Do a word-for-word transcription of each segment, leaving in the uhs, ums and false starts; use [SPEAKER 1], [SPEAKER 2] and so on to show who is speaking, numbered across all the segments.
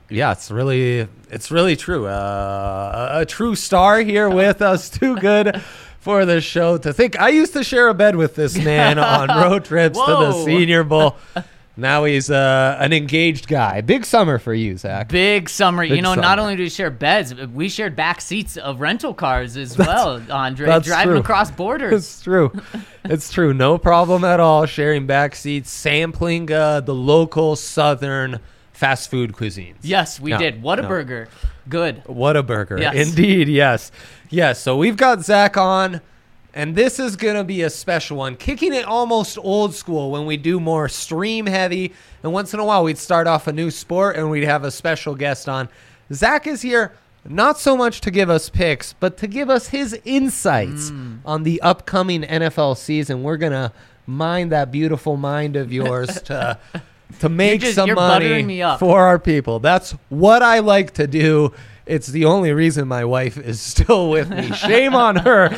[SPEAKER 1] Yeah, it's really, it's really true. Uh, a, a true star here with us. Too good for the show to think. I used to share a bed with this man on road trips to the Senior Bowl. Now he's uh, an engaged guy. Big summer for you, Zach.
[SPEAKER 2] Big summer.
[SPEAKER 1] Big
[SPEAKER 2] you know,
[SPEAKER 1] summer.
[SPEAKER 2] not only do we share beds, we shared back seats of rental cars as well, Andre.
[SPEAKER 1] That's
[SPEAKER 2] driving
[SPEAKER 1] true.
[SPEAKER 2] across borders.
[SPEAKER 1] It's true. It's true. No problem at all. Sharing back seats, sampling uh, the local Southern fast food cuisines.
[SPEAKER 2] Yes, we
[SPEAKER 1] No,
[SPEAKER 2] did. What a
[SPEAKER 1] no.
[SPEAKER 2] burger. Good.
[SPEAKER 1] What a burger.
[SPEAKER 2] Yes.
[SPEAKER 1] Indeed, yes. Yes, so we've got Zach on, and this is going to be a special one. Kicking it almost old school when we do more stream heavy, and once in a while we'd start off a new sport and we'd have a special guest on. Zach is here not so much to give us picks, but to give us his insights
[SPEAKER 2] Mm.
[SPEAKER 1] on the upcoming N F L season. We're going to mine that beautiful mind of yours to to make
[SPEAKER 2] just-
[SPEAKER 1] some
[SPEAKER 2] you're
[SPEAKER 1] money
[SPEAKER 2] buttering me up.
[SPEAKER 1] for our people. That's what I like to do. It's the only reason my wife is still with me. Shame on her.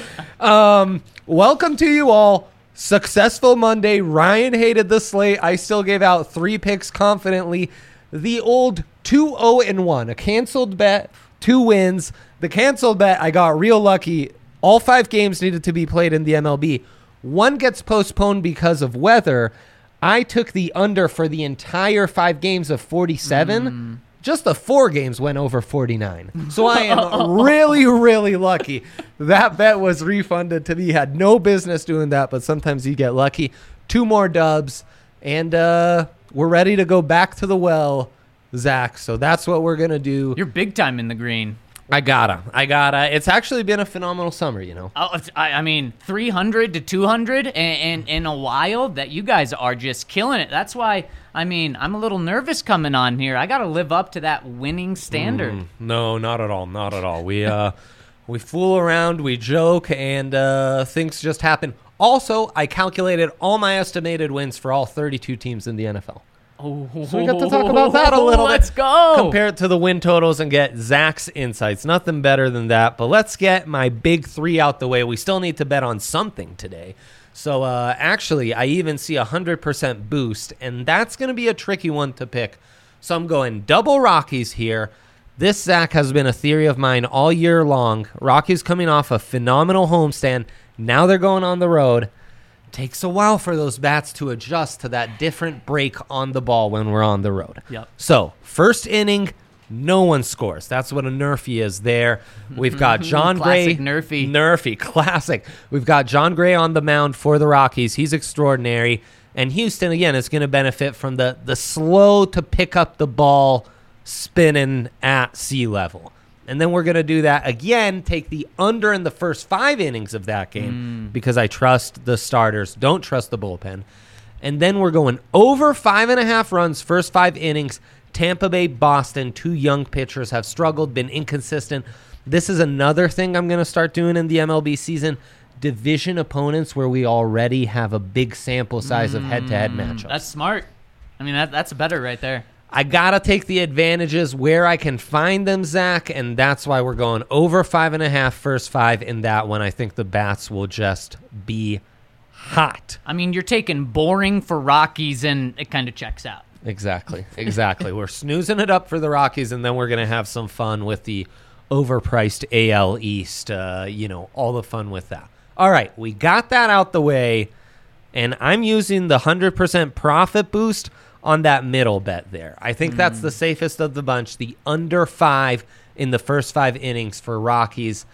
[SPEAKER 1] Um, welcome to you all. Successful Monday. Ryan hated the slate. I still gave out three picks confidently. The old two oh and one, a canceled bet, two wins. The canceled bet, I got real lucky. All five games needed to be played in the M L B. One gets postponed because of weather. I took the under for the entire five games of forty-seven.
[SPEAKER 2] Mm.
[SPEAKER 1] Just the four games went over forty-nine. So I am really, really lucky. That bet was refunded to me. Had no business doing that, but sometimes you get lucky. Two more dubs, and uh, we're ready to go back to the well, Zach. So that's what we're going to do.
[SPEAKER 2] You're big time in the green.
[SPEAKER 1] I gotta. I gotta. It's actually been a phenomenal summer, you know.
[SPEAKER 2] Oh, it's, I, I mean, three hundred to two hundred and in a while. That you guys are just killing it. That's why, I mean, I'm a little nervous coming on here. I got to live up to that winning standard.
[SPEAKER 1] Mm, no, not at all. Not at all. We uh, we fool around, we joke, and uh, things just happen. Also, I calculated all my estimated wins for all thirty-two teams in the N F L.
[SPEAKER 2] Oh,
[SPEAKER 1] So we got to talk about that a little
[SPEAKER 2] Let's
[SPEAKER 1] bit.
[SPEAKER 2] go.
[SPEAKER 1] Compare it to the win totals and get Zach's insights. Nothing better than that. But let's get my big three out the way. We still need to bet on something today. So uh, actually, I even see a one hundred percent boost, and that's going to be a tricky one to pick. So I'm going double Rockies here. This, Zach, has been a theory of mine all year long. Rockies coming off a phenomenal homestand. Now they're going on the road. Takes a while for those bats to adjust to that different break on the ball when we're on the road.
[SPEAKER 2] Yep.
[SPEAKER 1] So, first inning, no one scores. That's what a Nerfy is there. We've got John Gray.
[SPEAKER 2] Classic Nerfy.
[SPEAKER 1] Nerfy, classic. We've got John Gray on the mound for the Rockies. He's extraordinary. And Houston, again, is going to benefit from the, the slow to pick up the ball spinning at sea level. And then we're going to do that again, take the under in the first five innings of that game
[SPEAKER 2] Mm.
[SPEAKER 1] because I trust the starters, don't trust the bullpen. And then we're going over five and a half runs, first five innings. Tampa Bay, Boston, two young pitchers have struggled, been inconsistent. This is another thing I'm going to start doing in the M L B season. Division opponents where we already have a big sample size of head-to-head matchups.
[SPEAKER 2] That's smart. I mean, that that's better right there.
[SPEAKER 1] I got to take the advantages where I can find them, Zach, and that's why we're going over five and a half, first five in that one. I think the bats will just be hot.
[SPEAKER 2] I mean, you're taking boring for Rockies, and it kind of checks out.
[SPEAKER 1] Exactly, exactly. We're snoozing it up for the Rockies, and then we're going to have some fun with the overpriced A L East, uh, you know, all the fun with that. All right, we got that out the way, and I'm using the one hundred percent profit boost on that middle bet there. I think mm. that's the safest of the bunch. The under five in the first five innings for Rockies.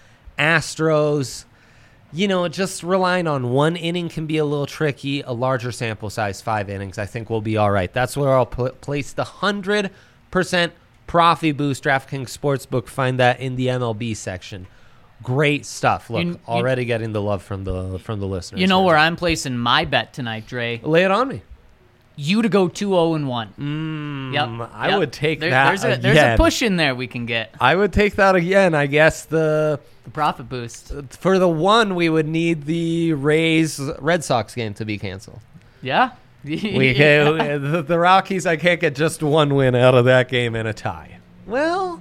[SPEAKER 1] Astros, you know, just relying on one inning can be a little tricky. A larger sample size, five innings, I think we'll be all right. That's where I'll pl- place the one hundred percent profit boost. DraftKings Sportsbook, find that in the M L B section. Great stuff. Look,
[SPEAKER 2] you,
[SPEAKER 1] already you, getting the love from the from the listeners.
[SPEAKER 2] You know
[SPEAKER 1] here.
[SPEAKER 2] where I'm placing my bet tonight, Dre?
[SPEAKER 1] Lay it on me.
[SPEAKER 2] You to go two oh and one.
[SPEAKER 1] Mm,
[SPEAKER 2] yep.
[SPEAKER 1] I
[SPEAKER 2] yep.
[SPEAKER 1] would take
[SPEAKER 2] there,
[SPEAKER 1] that
[SPEAKER 2] there's a,
[SPEAKER 1] again.
[SPEAKER 2] There's a push in there we can get.
[SPEAKER 1] I would take that again. I guess the
[SPEAKER 2] the profit boost.
[SPEAKER 1] For the one, we would need the Rays Red Sox game to be canceled.
[SPEAKER 2] Yeah.
[SPEAKER 1] we can, the, the Rockies, I can't get just one win out of that game and a tie. Well,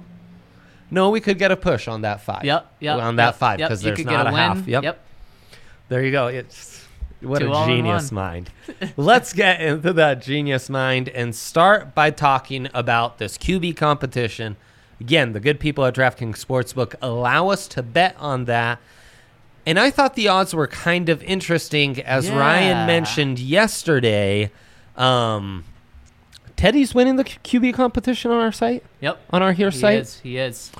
[SPEAKER 1] no, we could get a push on that five.
[SPEAKER 2] Yep. Yep.
[SPEAKER 1] On that
[SPEAKER 2] yep,
[SPEAKER 1] five
[SPEAKER 2] because
[SPEAKER 1] yep. there's
[SPEAKER 2] you could
[SPEAKER 1] not
[SPEAKER 2] get a,
[SPEAKER 1] a
[SPEAKER 2] win.
[SPEAKER 1] half. Yep.
[SPEAKER 2] Yep.
[SPEAKER 1] There you go. It's What
[SPEAKER 2] Two
[SPEAKER 1] a
[SPEAKER 2] all in
[SPEAKER 1] genius
[SPEAKER 2] one.
[SPEAKER 1] mind. Let's get into that genius mind and start by talking about this Q B competition. Again, the good people at DraftKings Sportsbook allow us to bet on that. And I thought the odds were kind of interesting. As
[SPEAKER 2] Yeah.
[SPEAKER 1] Ryan mentioned yesterday, um, Teddy's winning the Q B competition on our site,
[SPEAKER 2] Yep.
[SPEAKER 1] on our here
[SPEAKER 2] He
[SPEAKER 1] site.
[SPEAKER 2] is. He is.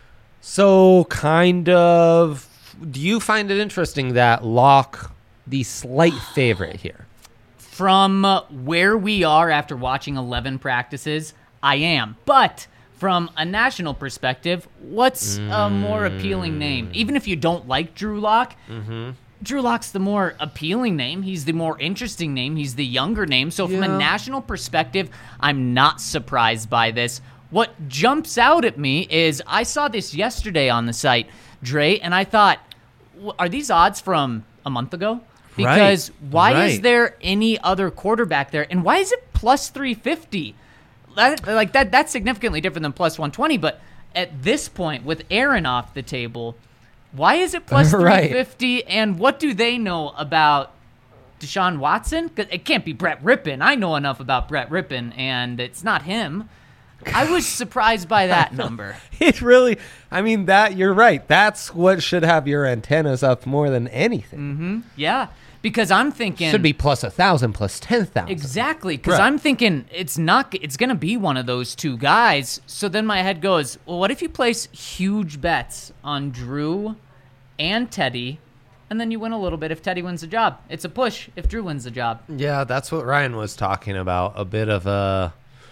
[SPEAKER 1] So kind of, do you find it interesting that Locke, the slight favorite here?
[SPEAKER 2] From uh, where we are after watching eleven practices, I am. But from a national perspective, what's a more appealing name? Even if you don't like Drew Lock,
[SPEAKER 1] Mm-hmm.
[SPEAKER 2] Drew Lock's the more appealing name. He's the more interesting name. He's the younger name. So from
[SPEAKER 1] Yeah.
[SPEAKER 2] a national perspective, I'm not surprised by this. What jumps out at me is I saw this yesterday on the site, Dre, and I thought, w- are these odds from a month ago? Because
[SPEAKER 1] Right,
[SPEAKER 2] why is
[SPEAKER 1] right.
[SPEAKER 2] there any other quarterback there? And why is it plus three fifty? That, like that that's significantly different than plus one twenty, but at this point with Aaron off the table, why is it plus
[SPEAKER 1] Right.
[SPEAKER 2] three fifty and what do they know about Deshaun Watson? 'Cause it can't be Brett Rippon. I know enough about Brett Rippon and it's not him. I was surprised by that number.
[SPEAKER 1] It really, I mean, that you're right. That's what should have your antennas up more than anything.
[SPEAKER 2] Yeah, because I'm thinking
[SPEAKER 1] Should be plus a thousand, plus ten thousand.
[SPEAKER 2] Exactly, because
[SPEAKER 1] Right.
[SPEAKER 2] I'm thinking it's not. It's going to be one of those two guys. So then my head goes, well, what if you place huge bets on Drew and Teddy, and then you win a little bit if Teddy wins the job? It's a push if Drew wins the job.
[SPEAKER 1] Yeah, that's what Ryan was talking about. A bit of a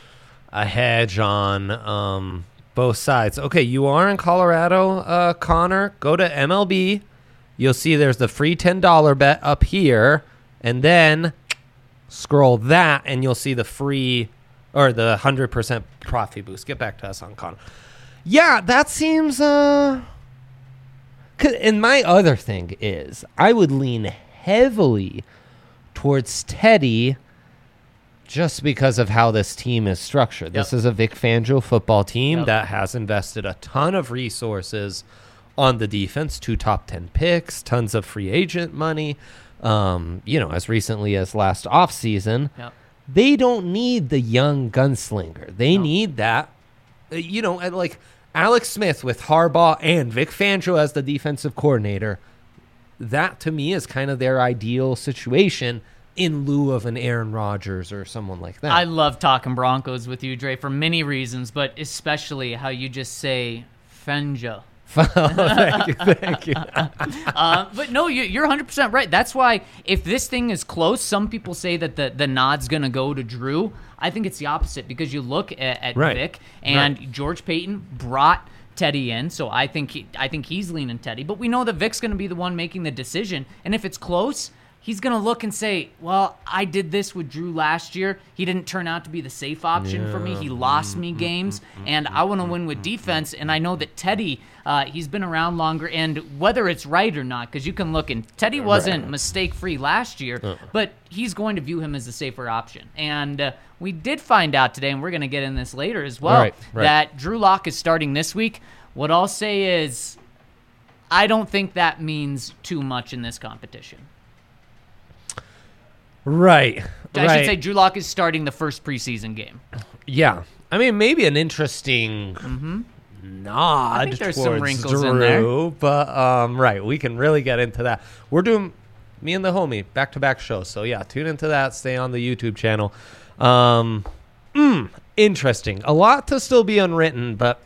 [SPEAKER 1] a hedge on um, both sides. Okay, you are in Colorado, uh, Connor. Go to M L B. You'll see there's the free ten dollar bet up here, and then scroll that, and you'll see the free or the one hundred percent profit boost. Get back to us on Connor. Yeah, that seems. Uh, 'cause- and my other thing is, I would lean heavily towards Teddy just because of how this team is structured. This
[SPEAKER 2] Yep.
[SPEAKER 1] is a Vic Fangio football team
[SPEAKER 2] Yep.
[SPEAKER 1] that has invested a ton of resources on the defense, two top ten picks, tons of free agent money, um, you know, as recently as last offseason.
[SPEAKER 2] Yep.
[SPEAKER 1] They don't need the young gunslinger. They
[SPEAKER 2] No.
[SPEAKER 1] need that, uh, you know, and like Alex Smith with Harbaugh and Vic Fangio as the defensive coordinator. That, to me, is kind of their ideal situation in lieu of an Aaron Rodgers or someone like that.
[SPEAKER 2] I love talking Broncos with you, Dre, for many reasons, but especially how you just say Fenja.
[SPEAKER 1] Thank you, thank you.
[SPEAKER 2] Uh, but no, you, you're one hundred percent right. That's why if this thing is close, some people say that the, the nod's going to go to Drew. I think it's the opposite because you look at, at
[SPEAKER 1] Right.
[SPEAKER 2] Vic and
[SPEAKER 1] Right.
[SPEAKER 2] George Payton brought Teddy in, so I think he, I think he's leaning Teddy. But we know that Vic's going to be the one making the decision, and if it's close, he's going to look and say, well, I did this with Drew last year. He didn't turn out to be the safe option for me. He lost me games, and I want to win with defense. And I know that Teddy, uh, he's been around longer, and whether it's right or not, because you can look, and Teddy wasn't mistake-free last year, but he's going to view him as the safer option. And uh, we did find out today, and we're going to get in this later as well,
[SPEAKER 1] Right, right.
[SPEAKER 2] that Drew Lock is starting this week. What I'll say is I don't think that means too much in this competition.
[SPEAKER 1] Right.
[SPEAKER 2] I
[SPEAKER 1] right.
[SPEAKER 2] should say Drew Lock is starting the first preseason game.
[SPEAKER 1] Yeah. I mean, maybe an interesting nod
[SPEAKER 2] Mm-hmm. I think there's some
[SPEAKER 1] towards
[SPEAKER 2] wrinkles
[SPEAKER 1] Drew,
[SPEAKER 2] in there.
[SPEAKER 1] but um, right, we can really get into that. We're doing me and the homie back-to-back shows, so yeah, tune into that. Stay on the YouTube channel. Um, mm, interesting. A lot to still be unwritten, but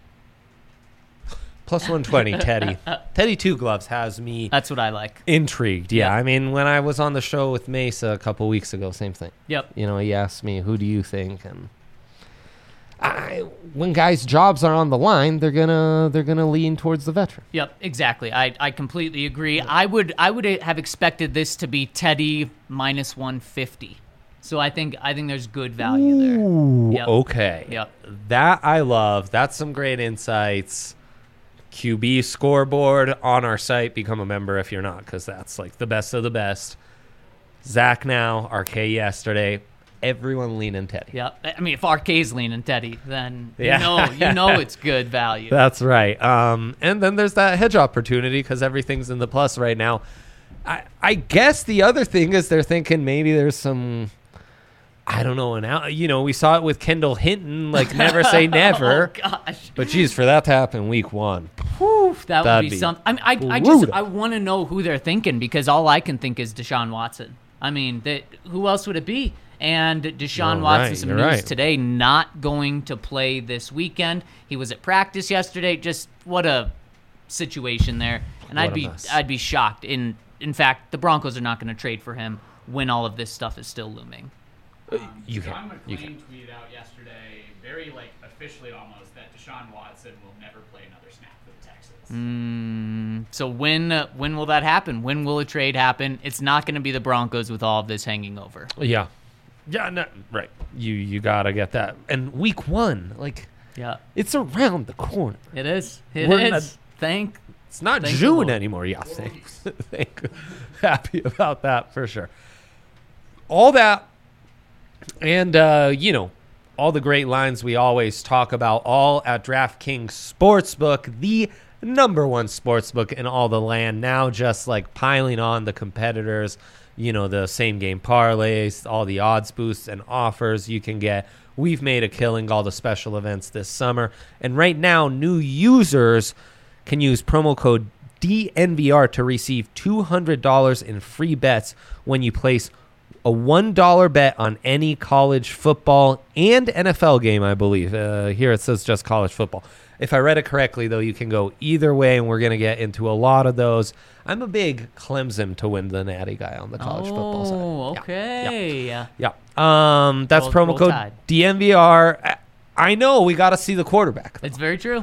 [SPEAKER 1] plus one twenty, Teddy. Teddy Two Gloves has me
[SPEAKER 2] That's what I like.
[SPEAKER 1] intrigued. Yeah,
[SPEAKER 2] Yep.
[SPEAKER 1] I mean, when I was on the show with Mesa a couple weeks ago, same thing.
[SPEAKER 2] Yep.
[SPEAKER 1] You know, he asked me, "Who do you think?" And I, when guys' jobs are on the line, they're gonna they're gonna lean towards the veteran.
[SPEAKER 2] Yep, exactly. I, I completely agree. I would I would have expected this to be Teddy minus one fifty. So I think I think there's good value there.
[SPEAKER 1] Ooh,
[SPEAKER 2] Yep.
[SPEAKER 1] okay.
[SPEAKER 2] Yep.
[SPEAKER 1] That I love. That's some great insights. Q B scoreboard on our site. Become a member if you're not, because that's like the best of the best. Zach now, R K yesterday. Everyone leaning Teddy.
[SPEAKER 2] Yep. I mean, if R K's leaning Teddy, then
[SPEAKER 1] Yeah.
[SPEAKER 2] you know you know it's good value.
[SPEAKER 1] That's right. Um, and then there's that hedge opportunity because everything's in the plus right now. I, I guess the other thing is they're thinking maybe there's some, I don't know, an out, you know, we saw it with Kendall Hinton, like never say never.
[SPEAKER 2] Oh, gosh.
[SPEAKER 1] But geez, for that to happen week one.
[SPEAKER 2] Whew, that
[SPEAKER 1] That'd
[SPEAKER 2] would be,
[SPEAKER 1] be
[SPEAKER 2] something. I, mean, I, I
[SPEAKER 1] brutal.
[SPEAKER 2] just I want to know who they're thinking because all I can think is Deshaun Watson. I mean, that who else would it be? And Deshaun
[SPEAKER 1] You're
[SPEAKER 2] Watson,
[SPEAKER 1] right,
[SPEAKER 2] some
[SPEAKER 1] you're
[SPEAKER 2] news
[SPEAKER 1] right.
[SPEAKER 2] today, not going to play this weekend. He was at practice yesterday. Just what a situation there. And
[SPEAKER 1] What
[SPEAKER 2] I'd
[SPEAKER 1] a
[SPEAKER 2] be
[SPEAKER 1] mess.
[SPEAKER 2] I'd be shocked. In in fact, the Broncos are not going to trade for him when all of this stuff is still looming.
[SPEAKER 1] You
[SPEAKER 3] John
[SPEAKER 1] can. You
[SPEAKER 3] McClain
[SPEAKER 1] can.
[SPEAKER 3] tweeted out yesterday, very like officially almost, that Deshaun Watson will never play another snap for the Texans.
[SPEAKER 2] Mm, so when uh, when will that happen? When will a trade happen? It's not going to be the Broncos with all of this hanging over.
[SPEAKER 1] Yeah. Yeah, no, right. You you got to get that. And week one, like,
[SPEAKER 2] Yeah,
[SPEAKER 1] it's around the corner.
[SPEAKER 2] it is. It
[SPEAKER 1] We're
[SPEAKER 2] is.
[SPEAKER 1] not-
[SPEAKER 2] Thank.
[SPEAKER 1] It's not
[SPEAKER 2] Thank the
[SPEAKER 1] June
[SPEAKER 2] Lord.
[SPEAKER 1] anymore. Yeah, thank, thank, happy about that for sure. All that, and uh, you know, all the great lines we always talk about, all at DraftKings Sportsbook, the number one sportsbook in all the land. Now, just like piling on the competitors, you know, the same game parlays, all the odds boosts and offers you can get. We've made a killing, all the special events this summer, and right now, new users can use promo code D N V R to receive two hundred dollars in free bets when you place a one dollar bet on any college football and N F L game, I believe. Uh, here it says just college football. If I read it correctly, though, you can go either way, and we're going to get into a lot of those. I'm a big Clemson to win the natty guy on the college football side.
[SPEAKER 2] Oh,
[SPEAKER 1] Yeah,
[SPEAKER 2] okay.
[SPEAKER 1] Yeah. yeah. Um, that's
[SPEAKER 2] Roll-
[SPEAKER 1] promo
[SPEAKER 2] roll
[SPEAKER 1] code
[SPEAKER 2] Tide.
[SPEAKER 1] D N V R. I- I know we got to see the quarterback.
[SPEAKER 2] It's very true.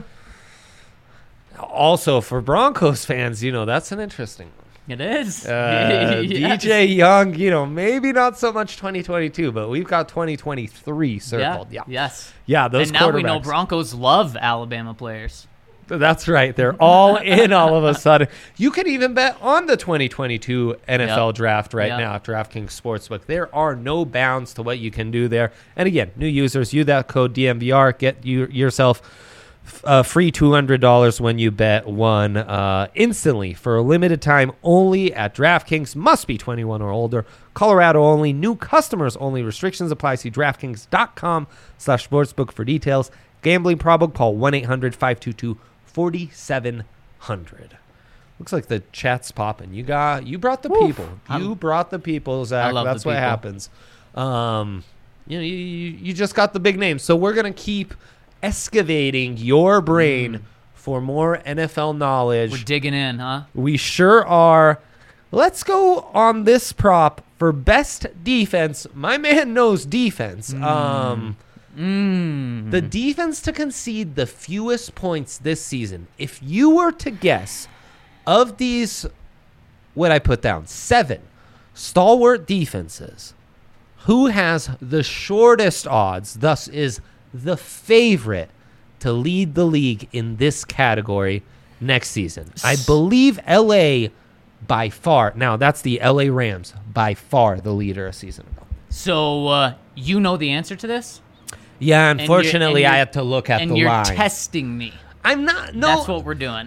[SPEAKER 1] Also, for Broncos fans, you know, that's an interesting one.
[SPEAKER 2] It is.
[SPEAKER 1] Uh,
[SPEAKER 2] Yes.
[SPEAKER 1] D J Young, you know, maybe not so much twenty twenty-two, but we've got twenty twenty-three circled. Yeah. Yeah,
[SPEAKER 2] Yes.
[SPEAKER 1] those
[SPEAKER 2] And now we know
[SPEAKER 1] quarterbacks.
[SPEAKER 2] Broncos love Alabama players.
[SPEAKER 1] That's right. They're all in all of a sudden. You can even bet on the twenty twenty-two N F L
[SPEAKER 2] Yep.
[SPEAKER 1] draft right
[SPEAKER 2] Yep.
[SPEAKER 1] now at DraftKings Sportsbook. There are no bounds to what you can do there. And again, new users, use that code D M V R. Get you yourself uh, free two hundred dollars when you bet one uh, instantly for a limited time only at DraftKings. Must be twenty-one or older. Colorado only. New customers only. Restrictions apply. See DraftKings.com slash sportsbook for details. Gambling problem, call one eight hundred five two two four seven zero zero. Looks like the chat's popping. You got you brought the
[SPEAKER 2] Woof.
[SPEAKER 1] people.
[SPEAKER 2] I'm-
[SPEAKER 1] You brought the people, Zach.
[SPEAKER 2] love the
[SPEAKER 1] That's what
[SPEAKER 2] people.
[SPEAKER 1] happens. Um, you know, you, you you just got the big names. So we're gonna keep excavating your brain for more N F L knowledge.
[SPEAKER 2] We're digging in, huh?
[SPEAKER 1] We sure are. Let's go on this prop for best defense. My man knows defense. Um,
[SPEAKER 2] Mm.
[SPEAKER 1] the defense to concede the fewest points this season. If you were to guess of these, what I put down, seven stalwart defenses, who has the shortest odds, thus is the favorite to lead the league in this category next season? I believe L A by far. Now, that's the L A Rams, by far the leader a season ago.
[SPEAKER 2] So uh, you know the answer to this?
[SPEAKER 1] Yeah,
[SPEAKER 2] And you're-
[SPEAKER 1] unfortunately,
[SPEAKER 2] and
[SPEAKER 1] I
[SPEAKER 2] you're-
[SPEAKER 1] had to look at
[SPEAKER 2] and
[SPEAKER 1] the
[SPEAKER 2] you're
[SPEAKER 1] line.
[SPEAKER 2] testing me.
[SPEAKER 1] I'm not. No,
[SPEAKER 2] That's what we're doing.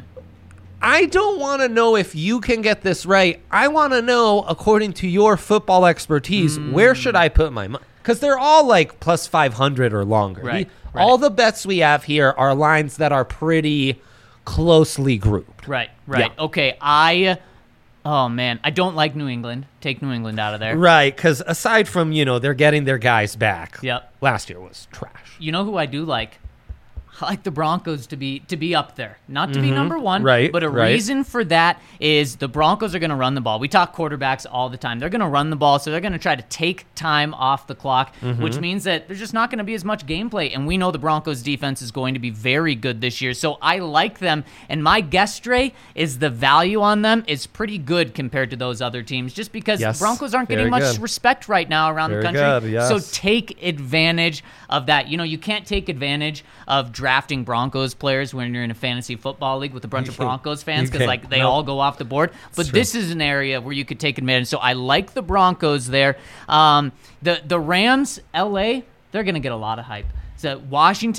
[SPEAKER 1] I don't want to know if you can get this right. I want to know, according to your football expertise,
[SPEAKER 2] Mm.
[SPEAKER 1] where should I put my money? Because they're all like plus five hundred or longer.
[SPEAKER 2] Right,
[SPEAKER 1] The-
[SPEAKER 2] right.
[SPEAKER 1] All the bets we have here are lines that are pretty closely grouped.
[SPEAKER 2] Right, right.
[SPEAKER 1] Yeah.
[SPEAKER 2] Okay, I. Oh man, I don't like New England. Take New England out of there.
[SPEAKER 1] Right, because aside from, you know, they're getting their guys back,
[SPEAKER 2] Yep.
[SPEAKER 1] last year was trash.
[SPEAKER 2] You know who I do like? I like the Broncos to be to be up there, not to be number one.
[SPEAKER 1] Mm-hmm. Right,
[SPEAKER 2] But a
[SPEAKER 1] right.
[SPEAKER 2] reason for that is the Broncos are going to run the ball. We talk quarterbacks all the time. They're going to run the ball, so they're going to try to take time off the clock,
[SPEAKER 1] Mm-hmm.
[SPEAKER 2] which means that there's just not going to be as much gameplay. And we know the Broncos defense is going to be very good this year, so I like them. And my guess, Dre, is the value on them is pretty good compared to those other teams, just because
[SPEAKER 1] Yes,
[SPEAKER 2] Broncos aren't getting
[SPEAKER 1] very
[SPEAKER 2] much
[SPEAKER 1] good.
[SPEAKER 2] respect right now around
[SPEAKER 1] Very
[SPEAKER 2] the country.
[SPEAKER 1] good, yes.
[SPEAKER 2] So take advantage of that. You know, you can't take advantage of drafting Broncos players when you're in a fantasy football league with a bunch of Broncos fans
[SPEAKER 1] You
[SPEAKER 2] because
[SPEAKER 1] can't.
[SPEAKER 2] like they
[SPEAKER 1] Nope.
[SPEAKER 2] all go off the board. But
[SPEAKER 1] true.
[SPEAKER 2] this is an area where you could take advantage. So I like the Broncos there. Um, the the Rams, L A, they're gonna get a lot of hype. So Washington,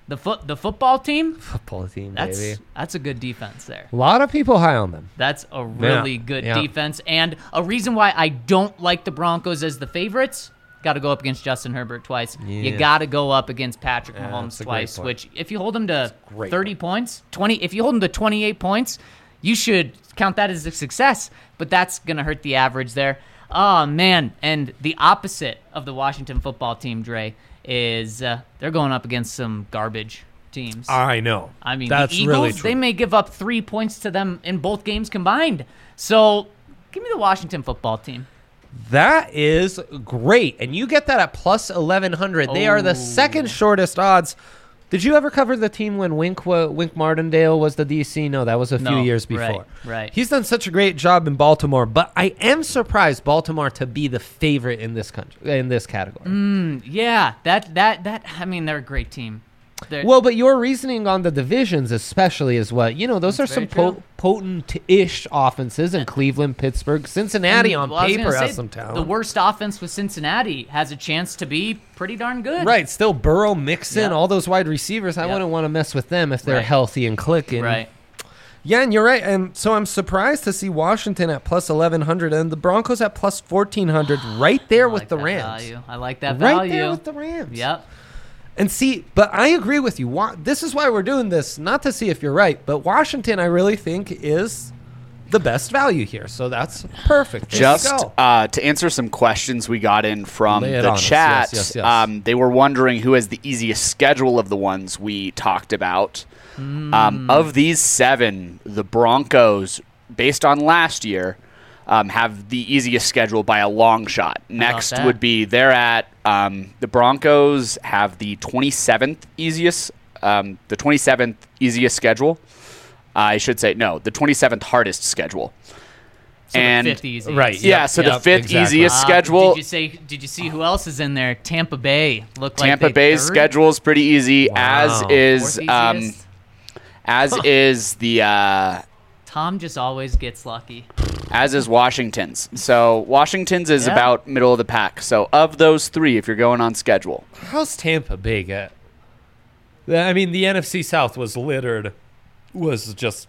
[SPEAKER 2] The foot, the football team.
[SPEAKER 1] Football team,
[SPEAKER 2] That's
[SPEAKER 1] baby.
[SPEAKER 2] that's a good defense there.
[SPEAKER 1] A lot of people high on them.
[SPEAKER 2] That's a really
[SPEAKER 1] Yeah,
[SPEAKER 2] good
[SPEAKER 1] yeah.
[SPEAKER 2] defense, and a reason why I don't like the Broncos as the favorites. Got to go up against Justin Herbert twice.
[SPEAKER 1] Yeah.
[SPEAKER 2] You got to go up against Patrick
[SPEAKER 1] Yeah,
[SPEAKER 2] Mahomes
[SPEAKER 1] that's a great
[SPEAKER 2] twice.
[SPEAKER 1] point.
[SPEAKER 2] Which, if you hold him to
[SPEAKER 1] great
[SPEAKER 2] thirty points, twenty, if you hold him to twenty-eight points, you should count that as a success. But that's gonna hurt the average there. Oh man, and the opposite of the Washington football team, Dre, is uh, they're going up against some garbage teams.
[SPEAKER 1] I know.
[SPEAKER 2] I mean,
[SPEAKER 1] that's
[SPEAKER 2] the Eagles,
[SPEAKER 1] really true.
[SPEAKER 2] they may give up three points to them in both games combined. So, give me the Washington football team.
[SPEAKER 1] That is great. And you get that at plus eleven hundred. They are the
[SPEAKER 2] Oh.
[SPEAKER 1] second shortest odds. Did you ever cover the team when Wink wa- Wink Martindale was the D C? No, that was a few
[SPEAKER 2] No,
[SPEAKER 1] years
[SPEAKER 2] right,
[SPEAKER 1] before.
[SPEAKER 2] right.
[SPEAKER 1] He's done such a great job in Baltimore, but I am surprised Baltimore to be the favorite in this country in this category.
[SPEAKER 2] Mm, yeah, that that that. I mean, they're a great team. They're,
[SPEAKER 1] Well, but your reasoning on the divisions, especially, is what you know. Those
[SPEAKER 2] That's
[SPEAKER 1] are some
[SPEAKER 2] very
[SPEAKER 1] po- potent-ish offenses in Cleveland, Pittsburgh, Cincinnati.
[SPEAKER 2] and,
[SPEAKER 1] On
[SPEAKER 2] well, I was
[SPEAKER 1] paper,
[SPEAKER 2] gonna
[SPEAKER 1] has
[SPEAKER 2] say,
[SPEAKER 1] some talent.
[SPEAKER 2] The worst offense with Cincinnati has a chance to be pretty darn good.
[SPEAKER 1] Right, still Burrow, Mixon,
[SPEAKER 2] Yep.
[SPEAKER 1] all those wide receivers. I
[SPEAKER 2] Yep.
[SPEAKER 1] wouldn't want to mess with them if they're
[SPEAKER 2] Right.
[SPEAKER 1] healthy and clicking.
[SPEAKER 2] Right.
[SPEAKER 1] Yeah, and you're right. And so I'm surprised to see Washington at plus eleven hundred and the Broncos at plus fourteen hundred, right there
[SPEAKER 2] I
[SPEAKER 1] with
[SPEAKER 2] like
[SPEAKER 1] the
[SPEAKER 2] that
[SPEAKER 1] Rams.
[SPEAKER 2] value. I like that
[SPEAKER 1] Right
[SPEAKER 2] value.
[SPEAKER 1] there with the Rams.
[SPEAKER 2] Yep.
[SPEAKER 1] And see, but I agree with you. Wa- This is why we're doing this, not to see if you're right, but Washington, I really think, is the best value here. So that's perfect. There you
[SPEAKER 4] Just
[SPEAKER 1] go.
[SPEAKER 4] uh, to answer some questions we got in from
[SPEAKER 1] Lay it
[SPEAKER 4] the
[SPEAKER 1] on us.
[SPEAKER 4] chat,
[SPEAKER 1] Yes, yes, yes.
[SPEAKER 4] Um, they were wondering who has the easiest schedule of the ones we talked about.
[SPEAKER 1] Hmm.
[SPEAKER 4] Um, of these seven, the Broncos, based on last year, um, have the easiest schedule by a long shot. Next
[SPEAKER 2] that?
[SPEAKER 4] would be they're at um, the Broncos have the twenty-seventh easiest, um, the twenty-seventh easiest schedule. I should say no, the twenty-seventh hardest schedule.
[SPEAKER 2] So
[SPEAKER 4] and
[SPEAKER 2] the fifth easy.
[SPEAKER 1] Right.
[SPEAKER 4] yeah,
[SPEAKER 1] Yep,
[SPEAKER 4] so the
[SPEAKER 1] yep,
[SPEAKER 4] fifth
[SPEAKER 1] exactly.
[SPEAKER 4] easiest
[SPEAKER 2] Uh,
[SPEAKER 4] schedule.
[SPEAKER 2] Did you say? Did you see who else is in there? Tampa Bay looked like
[SPEAKER 4] Tampa
[SPEAKER 2] they
[SPEAKER 4] Bay's
[SPEAKER 2] third?
[SPEAKER 4] schedule is pretty easy, as
[SPEAKER 1] Wow.
[SPEAKER 4] is
[SPEAKER 2] Fourth
[SPEAKER 4] um,
[SPEAKER 2] easiest?
[SPEAKER 4] as is the uh,
[SPEAKER 2] Tom just always gets lucky.
[SPEAKER 4] as is Washington's. So Washington's is
[SPEAKER 2] Yeah.
[SPEAKER 4] about middle of the pack. So of those three, if you're going on schedule,
[SPEAKER 1] How's Tampa Bay get? I mean, the N F C South was littered, was just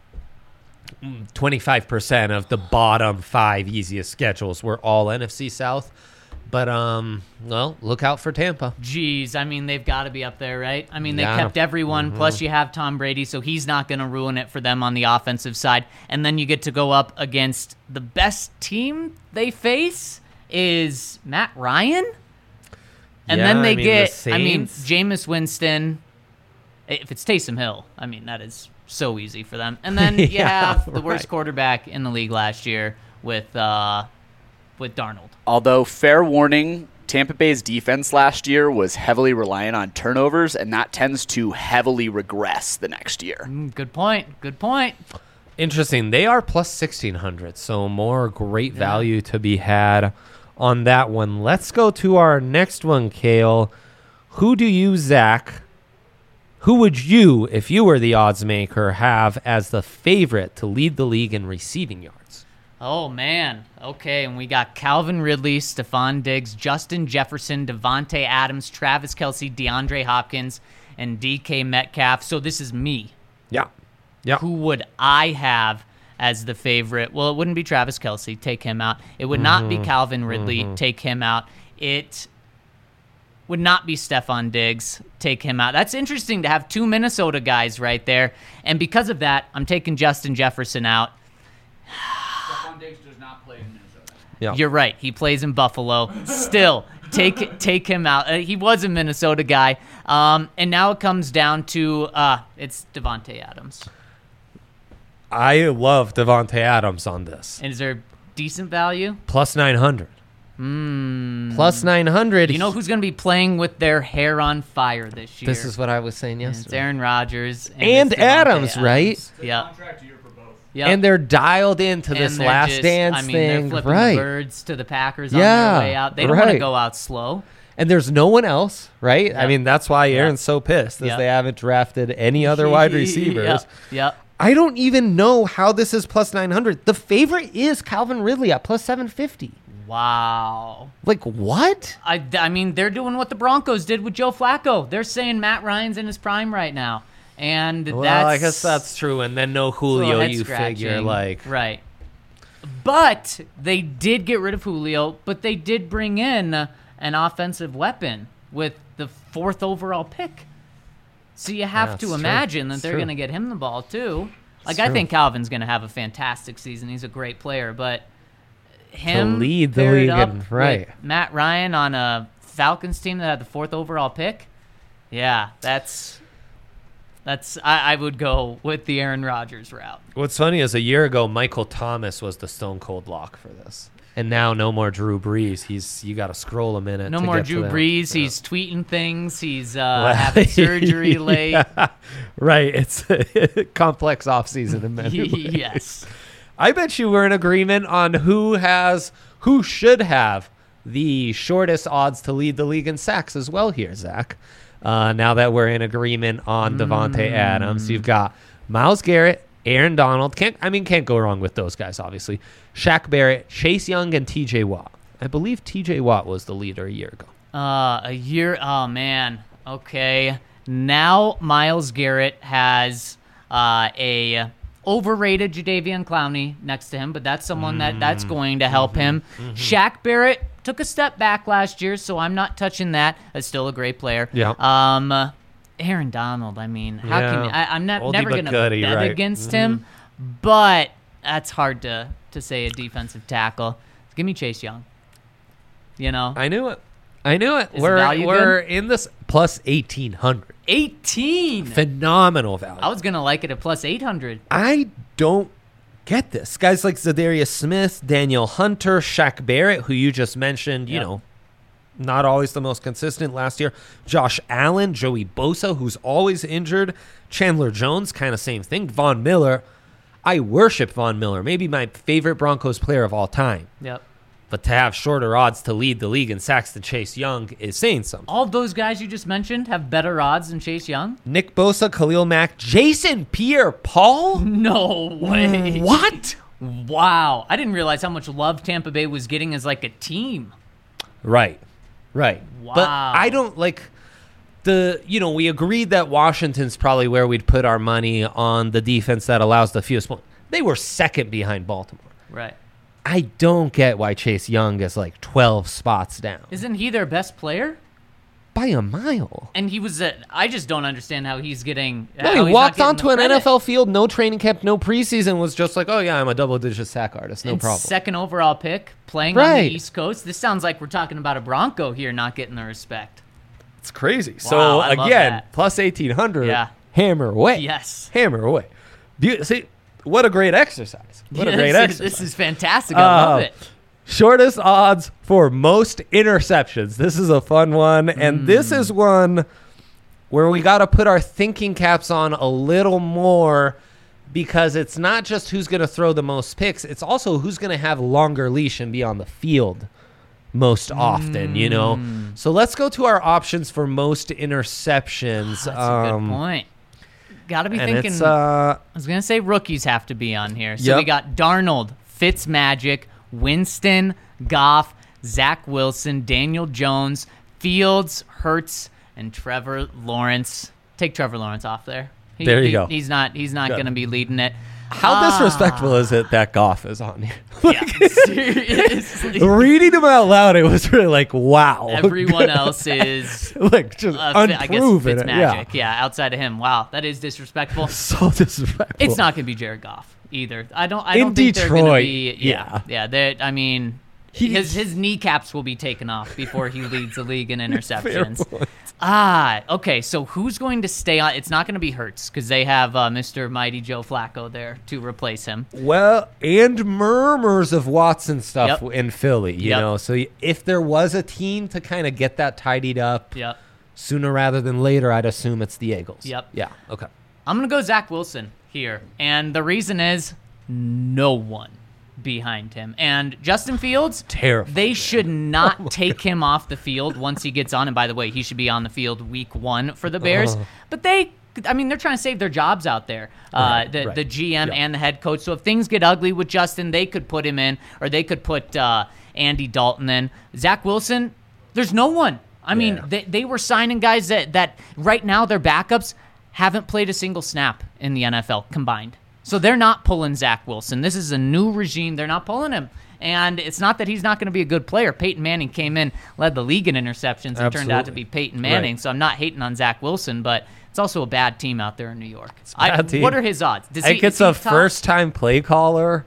[SPEAKER 1] twenty-five percent of the bottom five easiest schedules were all N F C South. But, um, well, look out for Tampa.
[SPEAKER 2] Jeez, I mean, they've got to be up there, right? I mean, they
[SPEAKER 1] Yeah.
[SPEAKER 2] kept everyone.
[SPEAKER 1] Mm-hmm.
[SPEAKER 2] Plus, you have Tom Brady, so he's not going to ruin it for them on the offensive side. And then you get to go up against the best team they face is Matt Ryan. And
[SPEAKER 1] Yeah,
[SPEAKER 2] then they
[SPEAKER 1] I mean, the
[SPEAKER 2] get, I mean,
[SPEAKER 1] Saints.
[SPEAKER 2] Jameis Winston. If it's Taysom Hill, I mean, that is so easy for them. And then you
[SPEAKER 1] Yeah,
[SPEAKER 2] have the worst
[SPEAKER 1] right.
[SPEAKER 2] quarterback in the league last year with uh, with Darnold.
[SPEAKER 4] although fair warning, Tampa Bay's defense last year was heavily reliant on turnovers, and that tends to heavily regress the next year.
[SPEAKER 2] Mm, good point. Good point.
[SPEAKER 1] Interesting. They are plus sixteen hundred, so more great value to be had on that one. Let's go to our next one, Kale. Who do you, Zach, who would you, if you were the odds maker, have as the favorite to lead the league in receiving yards?
[SPEAKER 2] Oh, man. Okay, and we got Calvin Ridley, Stephon Diggs, Justin Jefferson, Devontae Adams, Travis Kelce, DeAndre Hopkins, and D K Metcalf. So this is me.
[SPEAKER 1] Yeah. Yeah.
[SPEAKER 2] Who would I have as the favorite? Well, it wouldn't be Travis Kelce. Take him out. It would not
[SPEAKER 1] Mm-hmm.
[SPEAKER 2] be Calvin Ridley. Take him out. It would not be Stephon Diggs. Take him out. That's interesting to have two Minnesota guys right there. And because of that, I'm taking Justin Jefferson out.
[SPEAKER 3] Stephon Diggs does not play in Minnesota.
[SPEAKER 1] Yeah.
[SPEAKER 2] You're right. He plays in Buffalo. Still, take take him out. Uh, he was a Minnesota guy. Um, and now it comes down to uh, it's Devontae Adams.
[SPEAKER 1] I love Devontae Adams on this.
[SPEAKER 2] And is there decent value?
[SPEAKER 1] Plus nine hundred.
[SPEAKER 2] Mm.
[SPEAKER 1] Plus nine hundred.
[SPEAKER 2] You know who's going to be playing with their hair on fire this year?
[SPEAKER 1] This is what I was saying
[SPEAKER 2] It's
[SPEAKER 1] yesterday.
[SPEAKER 2] Aaron Rodgers and,
[SPEAKER 1] And
[SPEAKER 2] it's Devontae
[SPEAKER 1] Adams, right?
[SPEAKER 3] Good
[SPEAKER 2] Yep.
[SPEAKER 3] contract year for both.
[SPEAKER 2] Yep.
[SPEAKER 1] And they're dialed into
[SPEAKER 2] And
[SPEAKER 1] this
[SPEAKER 2] they're
[SPEAKER 1] last
[SPEAKER 2] just-
[SPEAKER 1] dance
[SPEAKER 2] I mean,
[SPEAKER 1] thing.
[SPEAKER 2] they're flipping
[SPEAKER 1] Right.
[SPEAKER 2] the birds to the Packers
[SPEAKER 1] Yeah,
[SPEAKER 2] on their way out. They don't want to
[SPEAKER 1] right.
[SPEAKER 2] go out slow.
[SPEAKER 1] And there's no one else, right? I
[SPEAKER 2] Yep.
[SPEAKER 1] mean, that's why
[SPEAKER 2] Yep.
[SPEAKER 1] Aaron's so pissed, is
[SPEAKER 2] Yep.
[SPEAKER 1] they haven't drafted any other wide receivers.
[SPEAKER 2] Yep. Yep.
[SPEAKER 1] I don't even know how this is plus nine hundred. The favorite is Calvin Ridley at plus seven fifty.
[SPEAKER 2] Wow.
[SPEAKER 1] Like, what?
[SPEAKER 2] I, I mean, they're doing what the Broncos did with Joe Flacco. They're saying Matt Ryan's in his prime right now. And
[SPEAKER 1] Well,
[SPEAKER 2] that's...
[SPEAKER 1] I guess that's true. And then no
[SPEAKER 2] it's a little
[SPEAKER 1] Julio,
[SPEAKER 2] head
[SPEAKER 1] you
[SPEAKER 2] scratching.
[SPEAKER 1] figure, like...
[SPEAKER 2] Right. But they did get rid of Julio, but they did bring in an offensive weapon with the fourth overall pick. So you have
[SPEAKER 1] Yeah,
[SPEAKER 2] to
[SPEAKER 1] it's true.
[SPEAKER 2] imagine that
[SPEAKER 1] It's
[SPEAKER 2] they're
[SPEAKER 1] true.
[SPEAKER 2] going to get him the ball too. Like,
[SPEAKER 1] It's
[SPEAKER 2] I
[SPEAKER 1] true.
[SPEAKER 2] think Calvin's going to have a fantastic season. He's a great player, but him
[SPEAKER 1] lead the
[SPEAKER 2] paired
[SPEAKER 1] league
[SPEAKER 2] up
[SPEAKER 1] and- right.
[SPEAKER 2] with Matt Ryan on a Falcons team that had the fourth overall pick, yeah, that's that's I, I would go with the Aaron Rodgers route.
[SPEAKER 1] What's funny is a year ago, Michael Thomas was the stone cold lock for this. And now no more Drew Brees. He's You got to scroll a minute
[SPEAKER 2] No
[SPEAKER 1] to
[SPEAKER 2] more
[SPEAKER 1] get to
[SPEAKER 2] Drew
[SPEAKER 1] that.
[SPEAKER 2] Brees.
[SPEAKER 1] Yeah.
[SPEAKER 2] He's tweeting things. He's uh, having surgery late.
[SPEAKER 1] Yeah. Right. It's a complex offseason in many ways.
[SPEAKER 2] Yes.
[SPEAKER 1] I bet you we're in agreement on who has, who should have the shortest odds to lead the league in sacks as well here, Zach. Uh, now that we're in agreement on Devontae Adams, you've got Myles Garrett, Aaron Donald. Can't I mean can't go wrong with those guys, obviously. Shaq Barrett, Chase Young, and T J Watt. I believe T J Watt was the leader a year ago.
[SPEAKER 2] Uh, a year. Oh man. Okay. Now Myles Garrett has uh, a overrated Jadeveon Clowney next to him, but that's someone that that's going to help him. Shaq Barrett took a step back last year, so I'm not touching that. That's still a great player.
[SPEAKER 1] Yeah.
[SPEAKER 2] Um, Aaron Donald. I mean, how
[SPEAKER 1] Yeah.
[SPEAKER 2] can you, I, I'm not
[SPEAKER 1] Oldie
[SPEAKER 2] never
[SPEAKER 1] but
[SPEAKER 2] going to
[SPEAKER 1] goodie,
[SPEAKER 2] bet
[SPEAKER 1] right.
[SPEAKER 2] against him, but that's hard to to say a defensive tackle. Give me Chase Young. You know,
[SPEAKER 1] I knew it. I knew it.
[SPEAKER 2] Is the
[SPEAKER 1] we're
[SPEAKER 2] value
[SPEAKER 1] we're in this plus eighteen hundred.
[SPEAKER 2] eighteen.
[SPEAKER 1] Phenomenal value.
[SPEAKER 2] I was gonna like it at plus eight hundred.
[SPEAKER 1] I don't get this. Guys like Zadarius Smith, Daniel Hunter, Shaq Barrett, who you just mentioned, you
[SPEAKER 2] Yep.
[SPEAKER 1] know, not always the most consistent last year. Josh Allen, Joey Bosa, who's always injured. Chandler Jones, kind of same thing. Von Miller. I worship Von Miller, maybe my favorite Broncos player of all time.
[SPEAKER 2] Yep.
[SPEAKER 1] But to have shorter odds to lead the league in sacks than Chase Young is saying something.
[SPEAKER 2] All of those guys you just mentioned have better odds than Chase Young?
[SPEAKER 1] Nick Bosa, Khalil Mack, Jason Pierre-Paul?
[SPEAKER 2] No way.
[SPEAKER 1] What?
[SPEAKER 2] Wow. I didn't realize how much love Tampa Bay was getting as like a team.
[SPEAKER 1] Right, right. But
[SPEAKER 2] Wow.
[SPEAKER 1] I don't like the, you know, we agreed that Washington's probably where we'd put our money on the defense that allows the fewest points. They were second behind Baltimore.
[SPEAKER 2] Right.
[SPEAKER 1] I don't get why Chase Young is like twelve spots down
[SPEAKER 2] Isn't he their best player?
[SPEAKER 1] by a mile.
[SPEAKER 2] And he was a, I just don't understand how he's getting.
[SPEAKER 1] No,
[SPEAKER 2] how
[SPEAKER 1] he
[SPEAKER 2] he's not
[SPEAKER 1] walked
[SPEAKER 2] getting
[SPEAKER 1] onto
[SPEAKER 2] the
[SPEAKER 1] an
[SPEAKER 2] credit.
[SPEAKER 1] N F L field, no training camp, no preseason, was just like, oh yeah, I'm a double-digit sack artist, no
[SPEAKER 2] And
[SPEAKER 1] problem.
[SPEAKER 2] Second overall pick, playing on
[SPEAKER 1] Right.
[SPEAKER 2] the East Coast. This sounds like we're talking about a Bronco here not getting the respect.
[SPEAKER 1] It's crazy.
[SPEAKER 2] Wow,
[SPEAKER 1] so
[SPEAKER 2] I love
[SPEAKER 1] again,
[SPEAKER 2] that.
[SPEAKER 1] plus eighteen hundred,
[SPEAKER 2] Yeah.
[SPEAKER 1] hammer away.
[SPEAKER 2] Yes.
[SPEAKER 1] Hammer away. Be- See, what a great exercise. What a
[SPEAKER 2] Yeah,
[SPEAKER 1] great
[SPEAKER 2] this
[SPEAKER 1] exercise.
[SPEAKER 2] Is, this is fantastic. I love
[SPEAKER 1] Uh,
[SPEAKER 2] it.
[SPEAKER 1] Shortest odds for most interceptions. This is a fun one. And
[SPEAKER 2] Hmm.
[SPEAKER 1] this is one where we got to put our thinking caps on a little more because it's not just who's going to throw the most picks. It's also who's going to have longer leash and be on the field most often, you know? So let's go to our options for most interceptions.
[SPEAKER 2] That's a
[SPEAKER 1] Um,
[SPEAKER 2] good point. Got to be
[SPEAKER 1] And
[SPEAKER 2] thinking.
[SPEAKER 1] it's, uh,
[SPEAKER 2] I was gonna say rookies have to be on here. So we
[SPEAKER 1] Yep.
[SPEAKER 2] got Darnold, Fitzmagic, Winston, Goff, Zach Wilson, Daniel Jones, Fields, Hurts, and Trevor Lawrence. Take Trevor Lawrence off there. He-
[SPEAKER 1] There you
[SPEAKER 2] he-
[SPEAKER 1] go.
[SPEAKER 2] He's not. He's not
[SPEAKER 1] Good.
[SPEAKER 2] gonna be leading it.
[SPEAKER 1] how
[SPEAKER 2] Ah,
[SPEAKER 1] disrespectful is it that Goff is on here?
[SPEAKER 2] Yeah, seriously.
[SPEAKER 1] Reading him out loud, it was really like, wow.
[SPEAKER 2] Everyone else is
[SPEAKER 1] like just
[SPEAKER 2] uh, Fi- I guess
[SPEAKER 1] unproven.
[SPEAKER 2] Fitzmagic.
[SPEAKER 1] Yeah.
[SPEAKER 2] Yeah, outside of him, wow, that is disrespectful.
[SPEAKER 1] So disrespectful.
[SPEAKER 2] It's not going to be Jared Goff either. I don't. I
[SPEAKER 1] In
[SPEAKER 2] don't think they're going to
[SPEAKER 1] Detroit,
[SPEAKER 2] be. Yeah, yeah. They're, I mean,
[SPEAKER 1] He-
[SPEAKER 2] his his kneecaps will be taken off before he leads the league in
[SPEAKER 1] Fair
[SPEAKER 2] interceptions.
[SPEAKER 1] point.
[SPEAKER 2] Ah, okay. So who's going to stay on? It's not going to be Hurts because they have uh, Mister Mighty Joe Flacco there to replace him.
[SPEAKER 1] Well, and murmurs of Watson stuff
[SPEAKER 2] Yep.
[SPEAKER 1] in Philly, you
[SPEAKER 2] Yep.
[SPEAKER 1] know. So if there was a team to kind of get that tidied up
[SPEAKER 2] Yep.
[SPEAKER 1] sooner rather than later, I'd assume it's the Eagles.
[SPEAKER 2] Yep.
[SPEAKER 1] Yeah. Okay.
[SPEAKER 2] I'm going to go Zach Wilson here, and the reason is no one behind him. And Justin Fields,
[SPEAKER 1] Terrifying.
[SPEAKER 2] they should not take him off the field once he gets on. And by the way, he should be on the field week one for the Bears.
[SPEAKER 1] Uh-huh.
[SPEAKER 2] But they, I mean, they're trying to save their jobs out there, uh,
[SPEAKER 1] Right,
[SPEAKER 2] the,
[SPEAKER 1] right.
[SPEAKER 2] the G M
[SPEAKER 1] Yeah.
[SPEAKER 2] and the head coach. So if things get ugly with Justin, they could put him in, or they could put uh, Andy Dalton in. Zach Wilson, there's no one. I mean,
[SPEAKER 1] Yeah.
[SPEAKER 2] they, they were signing guys that, that right now their backups haven't played a single snap in the N F L combined. So they're not pulling Zach Wilson. This is a new regime. They're not pulling him. And it's not that he's not going to be a good player. Peyton Manning came in, led the league in interceptions, and turned out to
[SPEAKER 1] Absolutely.
[SPEAKER 2] be Peyton Manning.
[SPEAKER 1] Right.
[SPEAKER 2] So I'm not hating on Zach Wilson, but it's also a bad team out there in New York.
[SPEAKER 1] a bad
[SPEAKER 2] I,
[SPEAKER 1] team.
[SPEAKER 2] What are his odds? Does
[SPEAKER 1] I think
[SPEAKER 2] he,
[SPEAKER 1] it's
[SPEAKER 2] is he
[SPEAKER 1] a
[SPEAKER 2] top?
[SPEAKER 1] first-time play caller.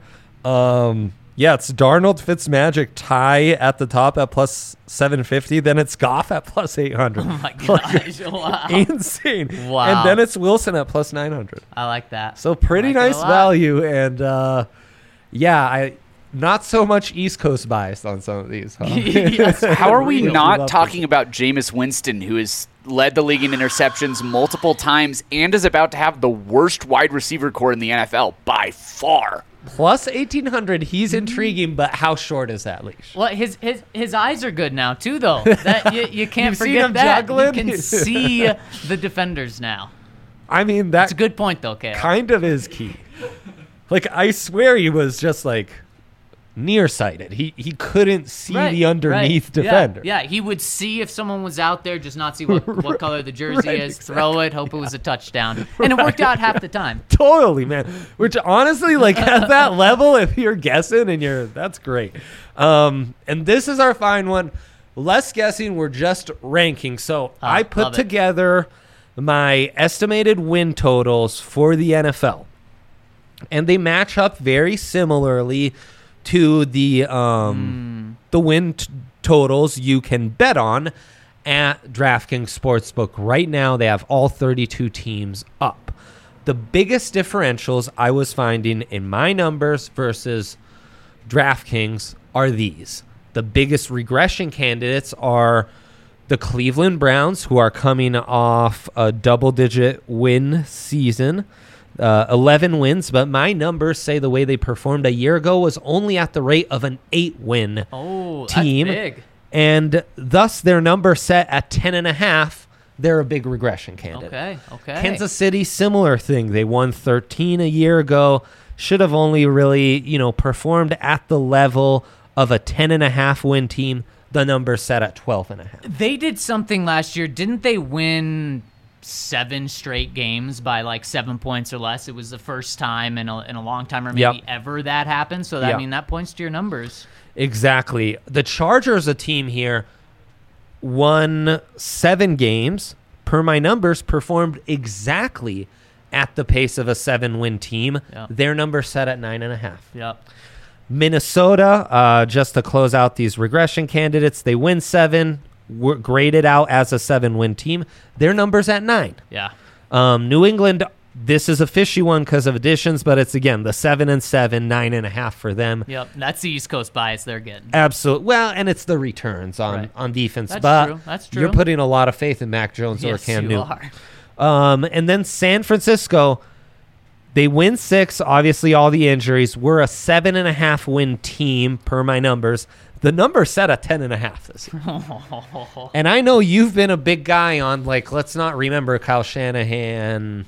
[SPEAKER 1] Um, yeah, it's Darnold, Fitzmagic tie at the top at plus seven fifty. Then it's Goff at plus eight hundred.
[SPEAKER 2] Oh my gosh! Wow.
[SPEAKER 1] Insane.
[SPEAKER 2] Wow.
[SPEAKER 1] And then it's Wilson at plus nine hundred.
[SPEAKER 2] I like that.
[SPEAKER 1] So pretty
[SPEAKER 2] I like it a
[SPEAKER 1] nice
[SPEAKER 2] lot.
[SPEAKER 1] value. And uh, yeah, I not so much East Coast bias on some of these. Huh?
[SPEAKER 2] Yes.
[SPEAKER 4] How are we
[SPEAKER 1] Really
[SPEAKER 4] not
[SPEAKER 1] love
[SPEAKER 4] talking about Jameis Winston, who has led the league in interceptions multiple times and is about to have the worst wide receiver core in the N F L by far?
[SPEAKER 1] Plus eighteen hundred. He's intriguing, but how short is that leash?
[SPEAKER 2] Well, his his his eyes are good now too, though. That you, you can't
[SPEAKER 1] You've seen
[SPEAKER 2] forget
[SPEAKER 1] him
[SPEAKER 2] that.
[SPEAKER 1] juggling?
[SPEAKER 2] You can see the defenders now.
[SPEAKER 1] I mean,
[SPEAKER 2] That's
[SPEAKER 1] that
[SPEAKER 2] a good point, though, Kale.
[SPEAKER 1] kind of is key. Like, I swear he was just like nearsighted. He he couldn't see
[SPEAKER 2] Right,
[SPEAKER 1] the underneath
[SPEAKER 2] right.
[SPEAKER 1] defender.
[SPEAKER 2] Yeah, yeah, he would see if someone was out there, just not see what, what color the jersey
[SPEAKER 1] Right,
[SPEAKER 2] is, throw it, hope it was a touchdown. And it worked out half the time.
[SPEAKER 1] Totally, man. Which honestly, like at that level, if you're guessing and you're, that's great. Um, and this is our fine one. Less guessing, we're just ranking. So
[SPEAKER 2] Ah,
[SPEAKER 1] I put
[SPEAKER 2] love it.
[SPEAKER 1] together my estimated win totals for the N F L, and they match up very similarly to the um, the win t- totals you can bet on at DraftKings Sportsbook. Right now, they have all thirty-two teams up. The biggest differentials I was finding in my numbers versus DraftKings are these. The biggest regression candidates are the Cleveland Browns, who are coming off a double-digit win season. Uh, eleven wins, but my numbers say the way they performed a year ago was only at the rate of an eight-win
[SPEAKER 2] Oh,
[SPEAKER 1] team,
[SPEAKER 2] that's big.
[SPEAKER 1] and thus their number set at ten and a half. They're a big regression candidate.
[SPEAKER 2] Okay, okay.
[SPEAKER 1] Kansas City, similar thing. They won thirteen a year ago. Should have only really, you know, performed at the level of a ten and a half win team. The number set at twelve and a half.
[SPEAKER 2] They did something last year. Didn't they win seven straight games by like seven points or less? It was the first time in a, in a long time, or maybe
[SPEAKER 1] Yep.
[SPEAKER 2] ever, that happened. So that
[SPEAKER 1] Yep.
[SPEAKER 2] I mean that points to your numbers.
[SPEAKER 1] Exactly. The Chargers, a team here, won seven games. Per my numbers, performed exactly at the pace of a seven-win team.
[SPEAKER 2] Yeah.
[SPEAKER 1] Their number set at nine and a half.
[SPEAKER 2] Yep.
[SPEAKER 1] Minnesota, uh, just to close out these regression candidates, they win seven, were graded out as a seven-win team. Their number's at nine.
[SPEAKER 2] Yeah.
[SPEAKER 1] Um, New England, this is a fishy one because of additions, but it's, again, the seven and seven, nine and a half for them.
[SPEAKER 2] Yep. That's the East Coast bias they're getting.
[SPEAKER 1] Absolutely. Well, and it's the returns on,
[SPEAKER 2] Right.
[SPEAKER 1] on defense.
[SPEAKER 2] That's
[SPEAKER 1] but
[SPEAKER 2] true. That's
[SPEAKER 1] You're
[SPEAKER 2] true.
[SPEAKER 1] putting a lot of faith in Mac Jones or
[SPEAKER 2] Yes,
[SPEAKER 1] Cam
[SPEAKER 2] you
[SPEAKER 1] Newton.
[SPEAKER 2] are.
[SPEAKER 1] Um, and then San Francisco, they win six. Obviously, all the injuries. We're a seven and a half win team per my numbers. The number set at ten and a half this year. And I know you've been a big guy on, like, let's not remember Kyle Shanahan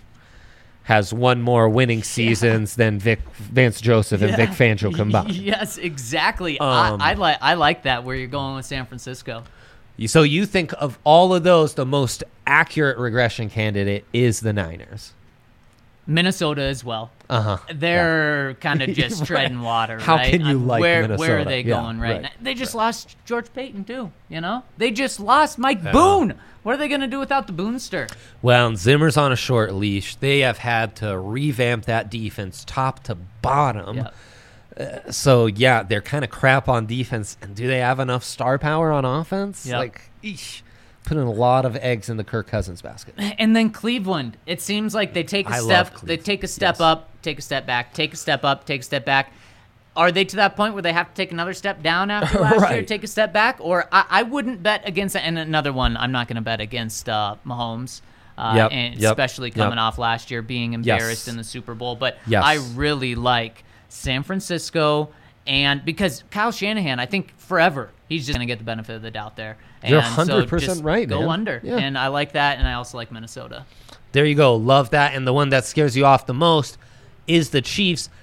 [SPEAKER 1] has one more winning seasons than Vic Vance Joseph and Vic Fangio combined.
[SPEAKER 2] Yes, exactly.
[SPEAKER 1] Um,
[SPEAKER 2] I, I like I like that where you're going with San Francisco.
[SPEAKER 1] So you think of all of those, the most accurate regression candidate is the Niners.
[SPEAKER 2] Minnesota as well.
[SPEAKER 1] Uh-huh.
[SPEAKER 2] They're kind of just
[SPEAKER 1] Right.
[SPEAKER 2] treading water.
[SPEAKER 1] How
[SPEAKER 2] right?
[SPEAKER 1] can you
[SPEAKER 2] Um,
[SPEAKER 1] like
[SPEAKER 2] where, Where
[SPEAKER 1] Minnesota?
[SPEAKER 2] are they
[SPEAKER 1] Yeah,
[SPEAKER 2] going right,
[SPEAKER 1] right,
[SPEAKER 2] now? They just lost George Payton too. You know, they just lost Mike Boone. What are they going to do without the Boonster?
[SPEAKER 1] Well, and Zimmer's on a short leash. They have had to revamp that defense top to bottom.
[SPEAKER 2] Yeah.
[SPEAKER 1] Uh, so, yeah, they're kind of crap on defense. And do they have enough star power on offense?
[SPEAKER 2] Yep.
[SPEAKER 1] Like, eesh, putting a lot of eggs in the Kirk Cousins basket.
[SPEAKER 2] And then Cleveland. It seems like they take a
[SPEAKER 1] I love
[SPEAKER 2] step. They
[SPEAKER 1] Cleveland.
[SPEAKER 2] take a step
[SPEAKER 1] Yes.
[SPEAKER 2] up, take a step back, take a step up, take a step back. Are they to that point where they have to take another step down after last year,
[SPEAKER 1] Right.
[SPEAKER 2] take a step back? Or I, I wouldn't bet against and another one. I'm not going to bet against uh, Mahomes, uh,
[SPEAKER 1] Yep,
[SPEAKER 2] and
[SPEAKER 1] yep,
[SPEAKER 2] especially coming
[SPEAKER 1] yep.
[SPEAKER 2] off last year being embarrassed
[SPEAKER 1] Yes.
[SPEAKER 2] in the Super Bowl. But
[SPEAKER 1] Yes.
[SPEAKER 2] I really like San Francisco, and because Kyle Shanahan, I think forever he's just going to get the benefit of the doubt there. And
[SPEAKER 1] You're
[SPEAKER 2] so
[SPEAKER 1] one hundred percent
[SPEAKER 2] just
[SPEAKER 1] right,
[SPEAKER 2] Go
[SPEAKER 1] man.
[SPEAKER 2] under,
[SPEAKER 1] Yeah.
[SPEAKER 2] and I like that, and I also like Minnesota.
[SPEAKER 1] There you go. Love that. And the one that scares you off the most is the Chiefs.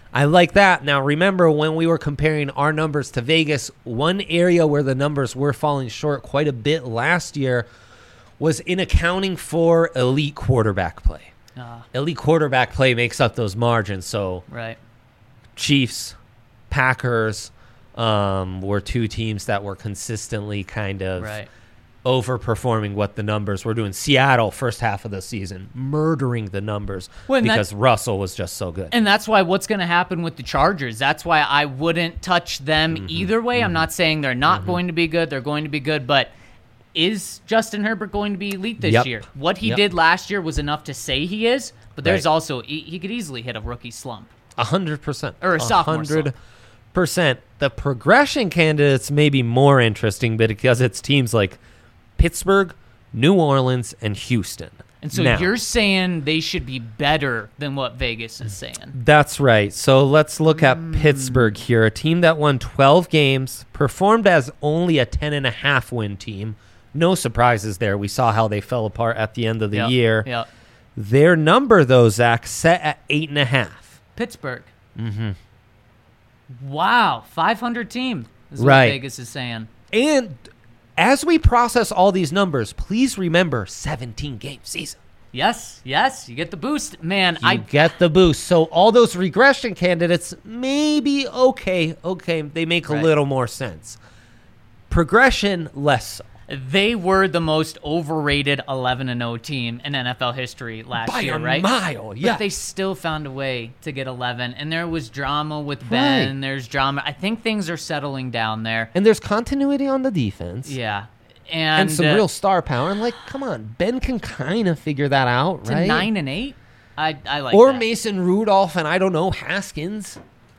[SPEAKER 1] I like that. Now, remember when we were comparing our numbers to Vegas, one area where the numbers were falling short quite a bit last year was in accounting for elite quarterback play.
[SPEAKER 2] Uh,
[SPEAKER 1] Elite quarterback play makes up those margins. So
[SPEAKER 2] right.
[SPEAKER 1] Chiefs, Packers um, were two teams that were consistently kind of
[SPEAKER 2] Right.
[SPEAKER 1] overperforming what the numbers were doing. Seattle, first half of the season, murdering the numbers
[SPEAKER 2] Well, and
[SPEAKER 1] because
[SPEAKER 2] that-
[SPEAKER 1] Russell was just so good.
[SPEAKER 2] And that's why what's going to happen with the Chargers. That's why I wouldn't touch them
[SPEAKER 1] Mm-hmm.
[SPEAKER 2] either way. I'm not saying they're not going to be good. They're going to be good. But is Justin Herbert going to be elite this
[SPEAKER 1] Yep.
[SPEAKER 2] year? What he
[SPEAKER 1] Yep.
[SPEAKER 2] did last year was enough to say he is. But there's
[SPEAKER 1] Right.
[SPEAKER 2] also, he, he could easily hit a rookie slump.
[SPEAKER 1] A hundred percent.
[SPEAKER 2] Or a sophomore
[SPEAKER 1] hundred percent. The progression candidates may be more interesting, but because it's teams like Pittsburgh, New Orleans, and Houston.
[SPEAKER 2] And so
[SPEAKER 1] Now,
[SPEAKER 2] you're saying they should be better than what Vegas is saying.
[SPEAKER 1] that's right. So let's look at Pittsburgh here, a team that won twelve games, performed as only a ten and a half win team. No surprises there. We saw how they fell apart at the end of the
[SPEAKER 2] Yep,
[SPEAKER 1] year.
[SPEAKER 2] Yep.
[SPEAKER 1] Their number, though, Zach, set at eight and a half.
[SPEAKER 2] Pittsburgh. Mm-hmm. Wow. five hundred team is
[SPEAKER 1] Right.
[SPEAKER 2] what Vegas is saying.
[SPEAKER 1] And as we process all these numbers, please remember seventeen game season.
[SPEAKER 2] Yes. Yes. You get the boost. Man,
[SPEAKER 1] You
[SPEAKER 2] I
[SPEAKER 1] get the boost. So all those regression candidates, maybe okay, okay, they make a
[SPEAKER 2] Right.
[SPEAKER 1] little more sense. Progression, less so.
[SPEAKER 2] They were the most overrated eleven and oh team in N F L history last
[SPEAKER 1] By
[SPEAKER 2] year,
[SPEAKER 1] a
[SPEAKER 2] right?
[SPEAKER 1] mile, yeah.
[SPEAKER 2] But they still found a way to get eleven, and there was drama with Ben.
[SPEAKER 1] Right.
[SPEAKER 2] There's drama. I think things are settling down there.
[SPEAKER 1] And there's continuity on the defense.
[SPEAKER 2] Yeah, and,
[SPEAKER 1] And some
[SPEAKER 2] uh,
[SPEAKER 1] real star power. And like, come on, Ben can kind of figure that out,
[SPEAKER 2] to
[SPEAKER 1] right?
[SPEAKER 2] nine and eight. I I like
[SPEAKER 1] or
[SPEAKER 2] that.
[SPEAKER 1] Mason Rudolph and I don't know, Haskins.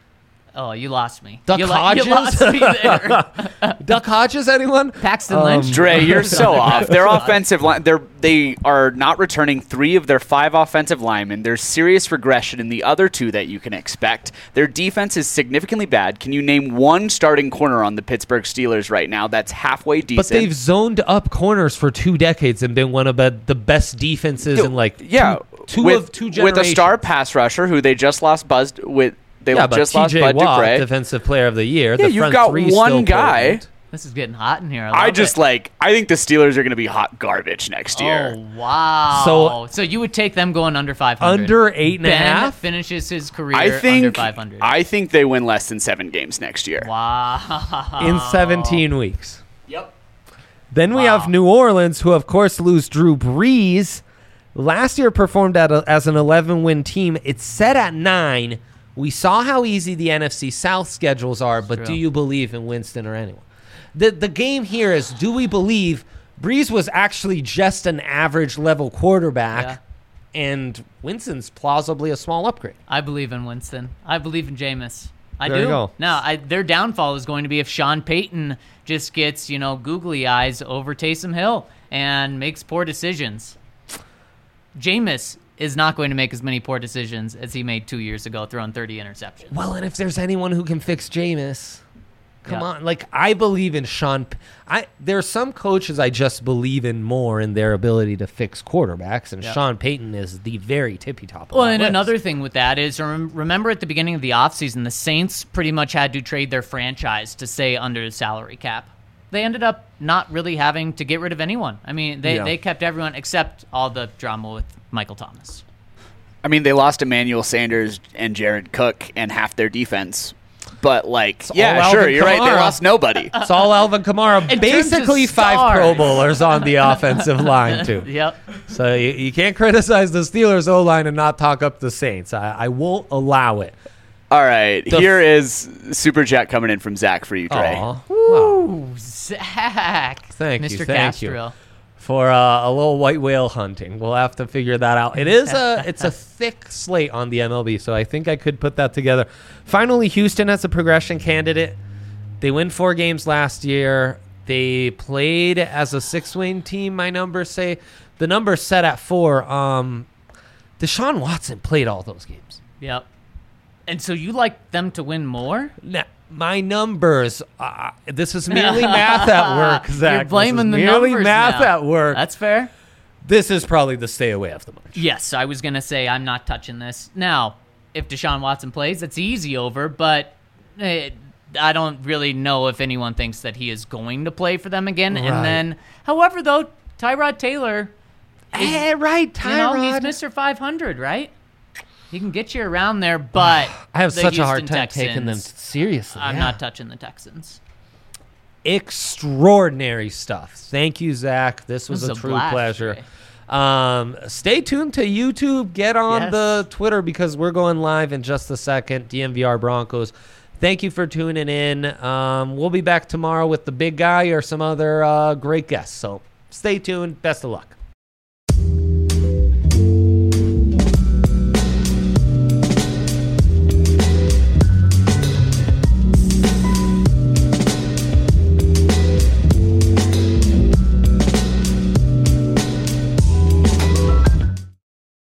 [SPEAKER 2] Oh, you lost me.
[SPEAKER 1] Duck
[SPEAKER 2] you, lo- you
[SPEAKER 1] Hodges?
[SPEAKER 2] lost me there.
[SPEAKER 1] Duck Hodges, anyone?
[SPEAKER 2] Paxton
[SPEAKER 1] Um,
[SPEAKER 2] Lynch.
[SPEAKER 4] Dre, you're so off. Their offensive line, they're they are not returning three of their five offensive linemen. There's serious regression in the other two that you can expect. Their defense is significantly bad. Can you name one starting corner on the Pittsburgh Steelers right now that's halfway decent?
[SPEAKER 1] But they've zoned up corners for two decades and been one of the the best defenses in like
[SPEAKER 4] yeah,
[SPEAKER 1] two, two
[SPEAKER 4] with,
[SPEAKER 1] of two generations.
[SPEAKER 4] with a star pass rusher who they just lost buzzed with. They
[SPEAKER 1] yeah, but
[SPEAKER 4] just lost
[SPEAKER 1] T J
[SPEAKER 4] Bud
[SPEAKER 1] Watt,
[SPEAKER 4] Dupre.
[SPEAKER 1] defensive player of the year.
[SPEAKER 4] Yeah,
[SPEAKER 1] the
[SPEAKER 4] you've
[SPEAKER 1] front
[SPEAKER 4] got
[SPEAKER 1] three
[SPEAKER 4] one
[SPEAKER 1] still
[SPEAKER 4] guy.
[SPEAKER 1] Potent.
[SPEAKER 2] This is getting hot in here. I,
[SPEAKER 4] I
[SPEAKER 2] love
[SPEAKER 4] just
[SPEAKER 2] it.
[SPEAKER 4] like. I think the Steelers are going to be hot garbage next year.
[SPEAKER 2] Oh wow!
[SPEAKER 1] So-
[SPEAKER 2] So, you would take them going under five hundred.
[SPEAKER 1] Under eight and a
[SPEAKER 2] Ben
[SPEAKER 1] half?
[SPEAKER 2] finishes his career
[SPEAKER 4] I think.
[SPEAKER 2] under five hundred.
[SPEAKER 4] I think they win less than seven games next year.
[SPEAKER 2] wow.
[SPEAKER 1] in seventeen weeks.
[SPEAKER 2] Yep.
[SPEAKER 1] Then we
[SPEAKER 2] Wow.
[SPEAKER 1] have New Orleans, who of course lose Drew Brees. Last year performed at a, as an eleven win team. It's set at nine. We saw how easy the N F C South schedules are, but
[SPEAKER 2] True.
[SPEAKER 1] do you believe in Winston or anyone? The the game here is, do we believe Brees was actually just an average level quarterback
[SPEAKER 2] Yeah.
[SPEAKER 1] and Winston's plausibly a small upgrade?
[SPEAKER 2] I believe in Winston. I believe in Jameis. I
[SPEAKER 1] There
[SPEAKER 2] do.
[SPEAKER 1] you go.
[SPEAKER 2] No, I, their downfall is going to be if Sean Payton just gets, you know, googly eyes over Taysom Hill and makes poor decisions. Jameis is not going to make as many poor decisions as he made two years ago, throwing thirty interceptions.
[SPEAKER 1] Well, and if there's anyone who can fix Jameis, come
[SPEAKER 2] Yeah.
[SPEAKER 1] on. Like, I believe in Sean. P- I There are some coaches I just believe in more in their ability to fix quarterbacks, and
[SPEAKER 2] Yeah.
[SPEAKER 1] Sean Payton is the very tippy top of
[SPEAKER 2] Well,
[SPEAKER 1] that
[SPEAKER 2] and
[SPEAKER 1] list.
[SPEAKER 2] another thing with that is, rem- remember at the beginning of the offseason, the Saints pretty much had to trade their franchise to stay under the salary cap. They ended up not really having to get rid of anyone. I mean, they,
[SPEAKER 1] Yeah.
[SPEAKER 2] they kept everyone except all the drama with Michael Thomas.
[SPEAKER 4] I mean, they lost Emmanuel Sanders and Jared Cook and half their defense. But, like, yeah,
[SPEAKER 1] all
[SPEAKER 4] sure,
[SPEAKER 1] Alvin
[SPEAKER 4] you're right. They
[SPEAKER 1] Kamara.
[SPEAKER 4] lost nobody.
[SPEAKER 1] It's all Alvin Kamara.
[SPEAKER 2] terms of
[SPEAKER 1] Basically five
[SPEAKER 2] stars.
[SPEAKER 1] Pro Bowlers on the offensive line, too.
[SPEAKER 2] Yep.
[SPEAKER 1] So you, you can't criticize the Steelers O-line and not talk up the Saints. I, I won't allow it.
[SPEAKER 4] All right,
[SPEAKER 1] The-
[SPEAKER 4] here is Super Chat coming in from Zach for you, Dre.
[SPEAKER 1] Aw. Wow.
[SPEAKER 2] Ooh, Zach.
[SPEAKER 1] Thank you,
[SPEAKER 2] Mister
[SPEAKER 1] thank you.
[SPEAKER 2] Castro.
[SPEAKER 1] For uh, a little white whale hunting. We'll have to figure that out. It is a it's a thick slate on the M L B, so I think I could put that together. Finally, Houston as a progression candidate. They win four games last year. They played as a six-win team, my numbers say. The number's set at four. Um, Deshaun Watson played all those games.
[SPEAKER 2] Yep. And so you like them to win more?
[SPEAKER 1] Now, my numbers, uh, this is merely math at work, Zach.
[SPEAKER 2] You're blaming
[SPEAKER 1] this
[SPEAKER 2] the
[SPEAKER 1] is merely
[SPEAKER 2] numbers
[SPEAKER 1] math
[SPEAKER 2] now.
[SPEAKER 1] at work.
[SPEAKER 2] That's fair.
[SPEAKER 1] This is probably the stay away of the bunch.
[SPEAKER 2] Yes, I was going to say I'm not touching this. Now, if Deshaun Watson plays, it's easy over, but it, I don't really know if anyone thinks that he is going to play for them again.
[SPEAKER 1] Right.
[SPEAKER 2] And then, however, though, Tyrod Taylor, is,
[SPEAKER 1] Eh, right,
[SPEAKER 2] you know, he's
[SPEAKER 1] Tyrod.
[SPEAKER 2] Mister five hundred, right? He can get you around there, but
[SPEAKER 1] I have
[SPEAKER 2] the
[SPEAKER 1] such a hard
[SPEAKER 2] Houston
[SPEAKER 1] time taking them
[SPEAKER 2] Texans,
[SPEAKER 1] seriously.
[SPEAKER 2] I'm
[SPEAKER 1] yeah.
[SPEAKER 2] not touching the Texans.
[SPEAKER 1] Extraordinary stuff. Thank you, Zach. This was,
[SPEAKER 2] This was
[SPEAKER 1] a
[SPEAKER 2] a
[SPEAKER 1] true
[SPEAKER 2] blast
[SPEAKER 1] pleasure.
[SPEAKER 2] today.
[SPEAKER 1] Um, stay tuned to YouTube. Get on
[SPEAKER 2] Yes.
[SPEAKER 1] the Twitter because we're going live in just a second. D M V R Broncos. Thank you for tuning in. Um, we'll be back tomorrow with the big guy or some other uh, great guests. So stay tuned. Best of luck.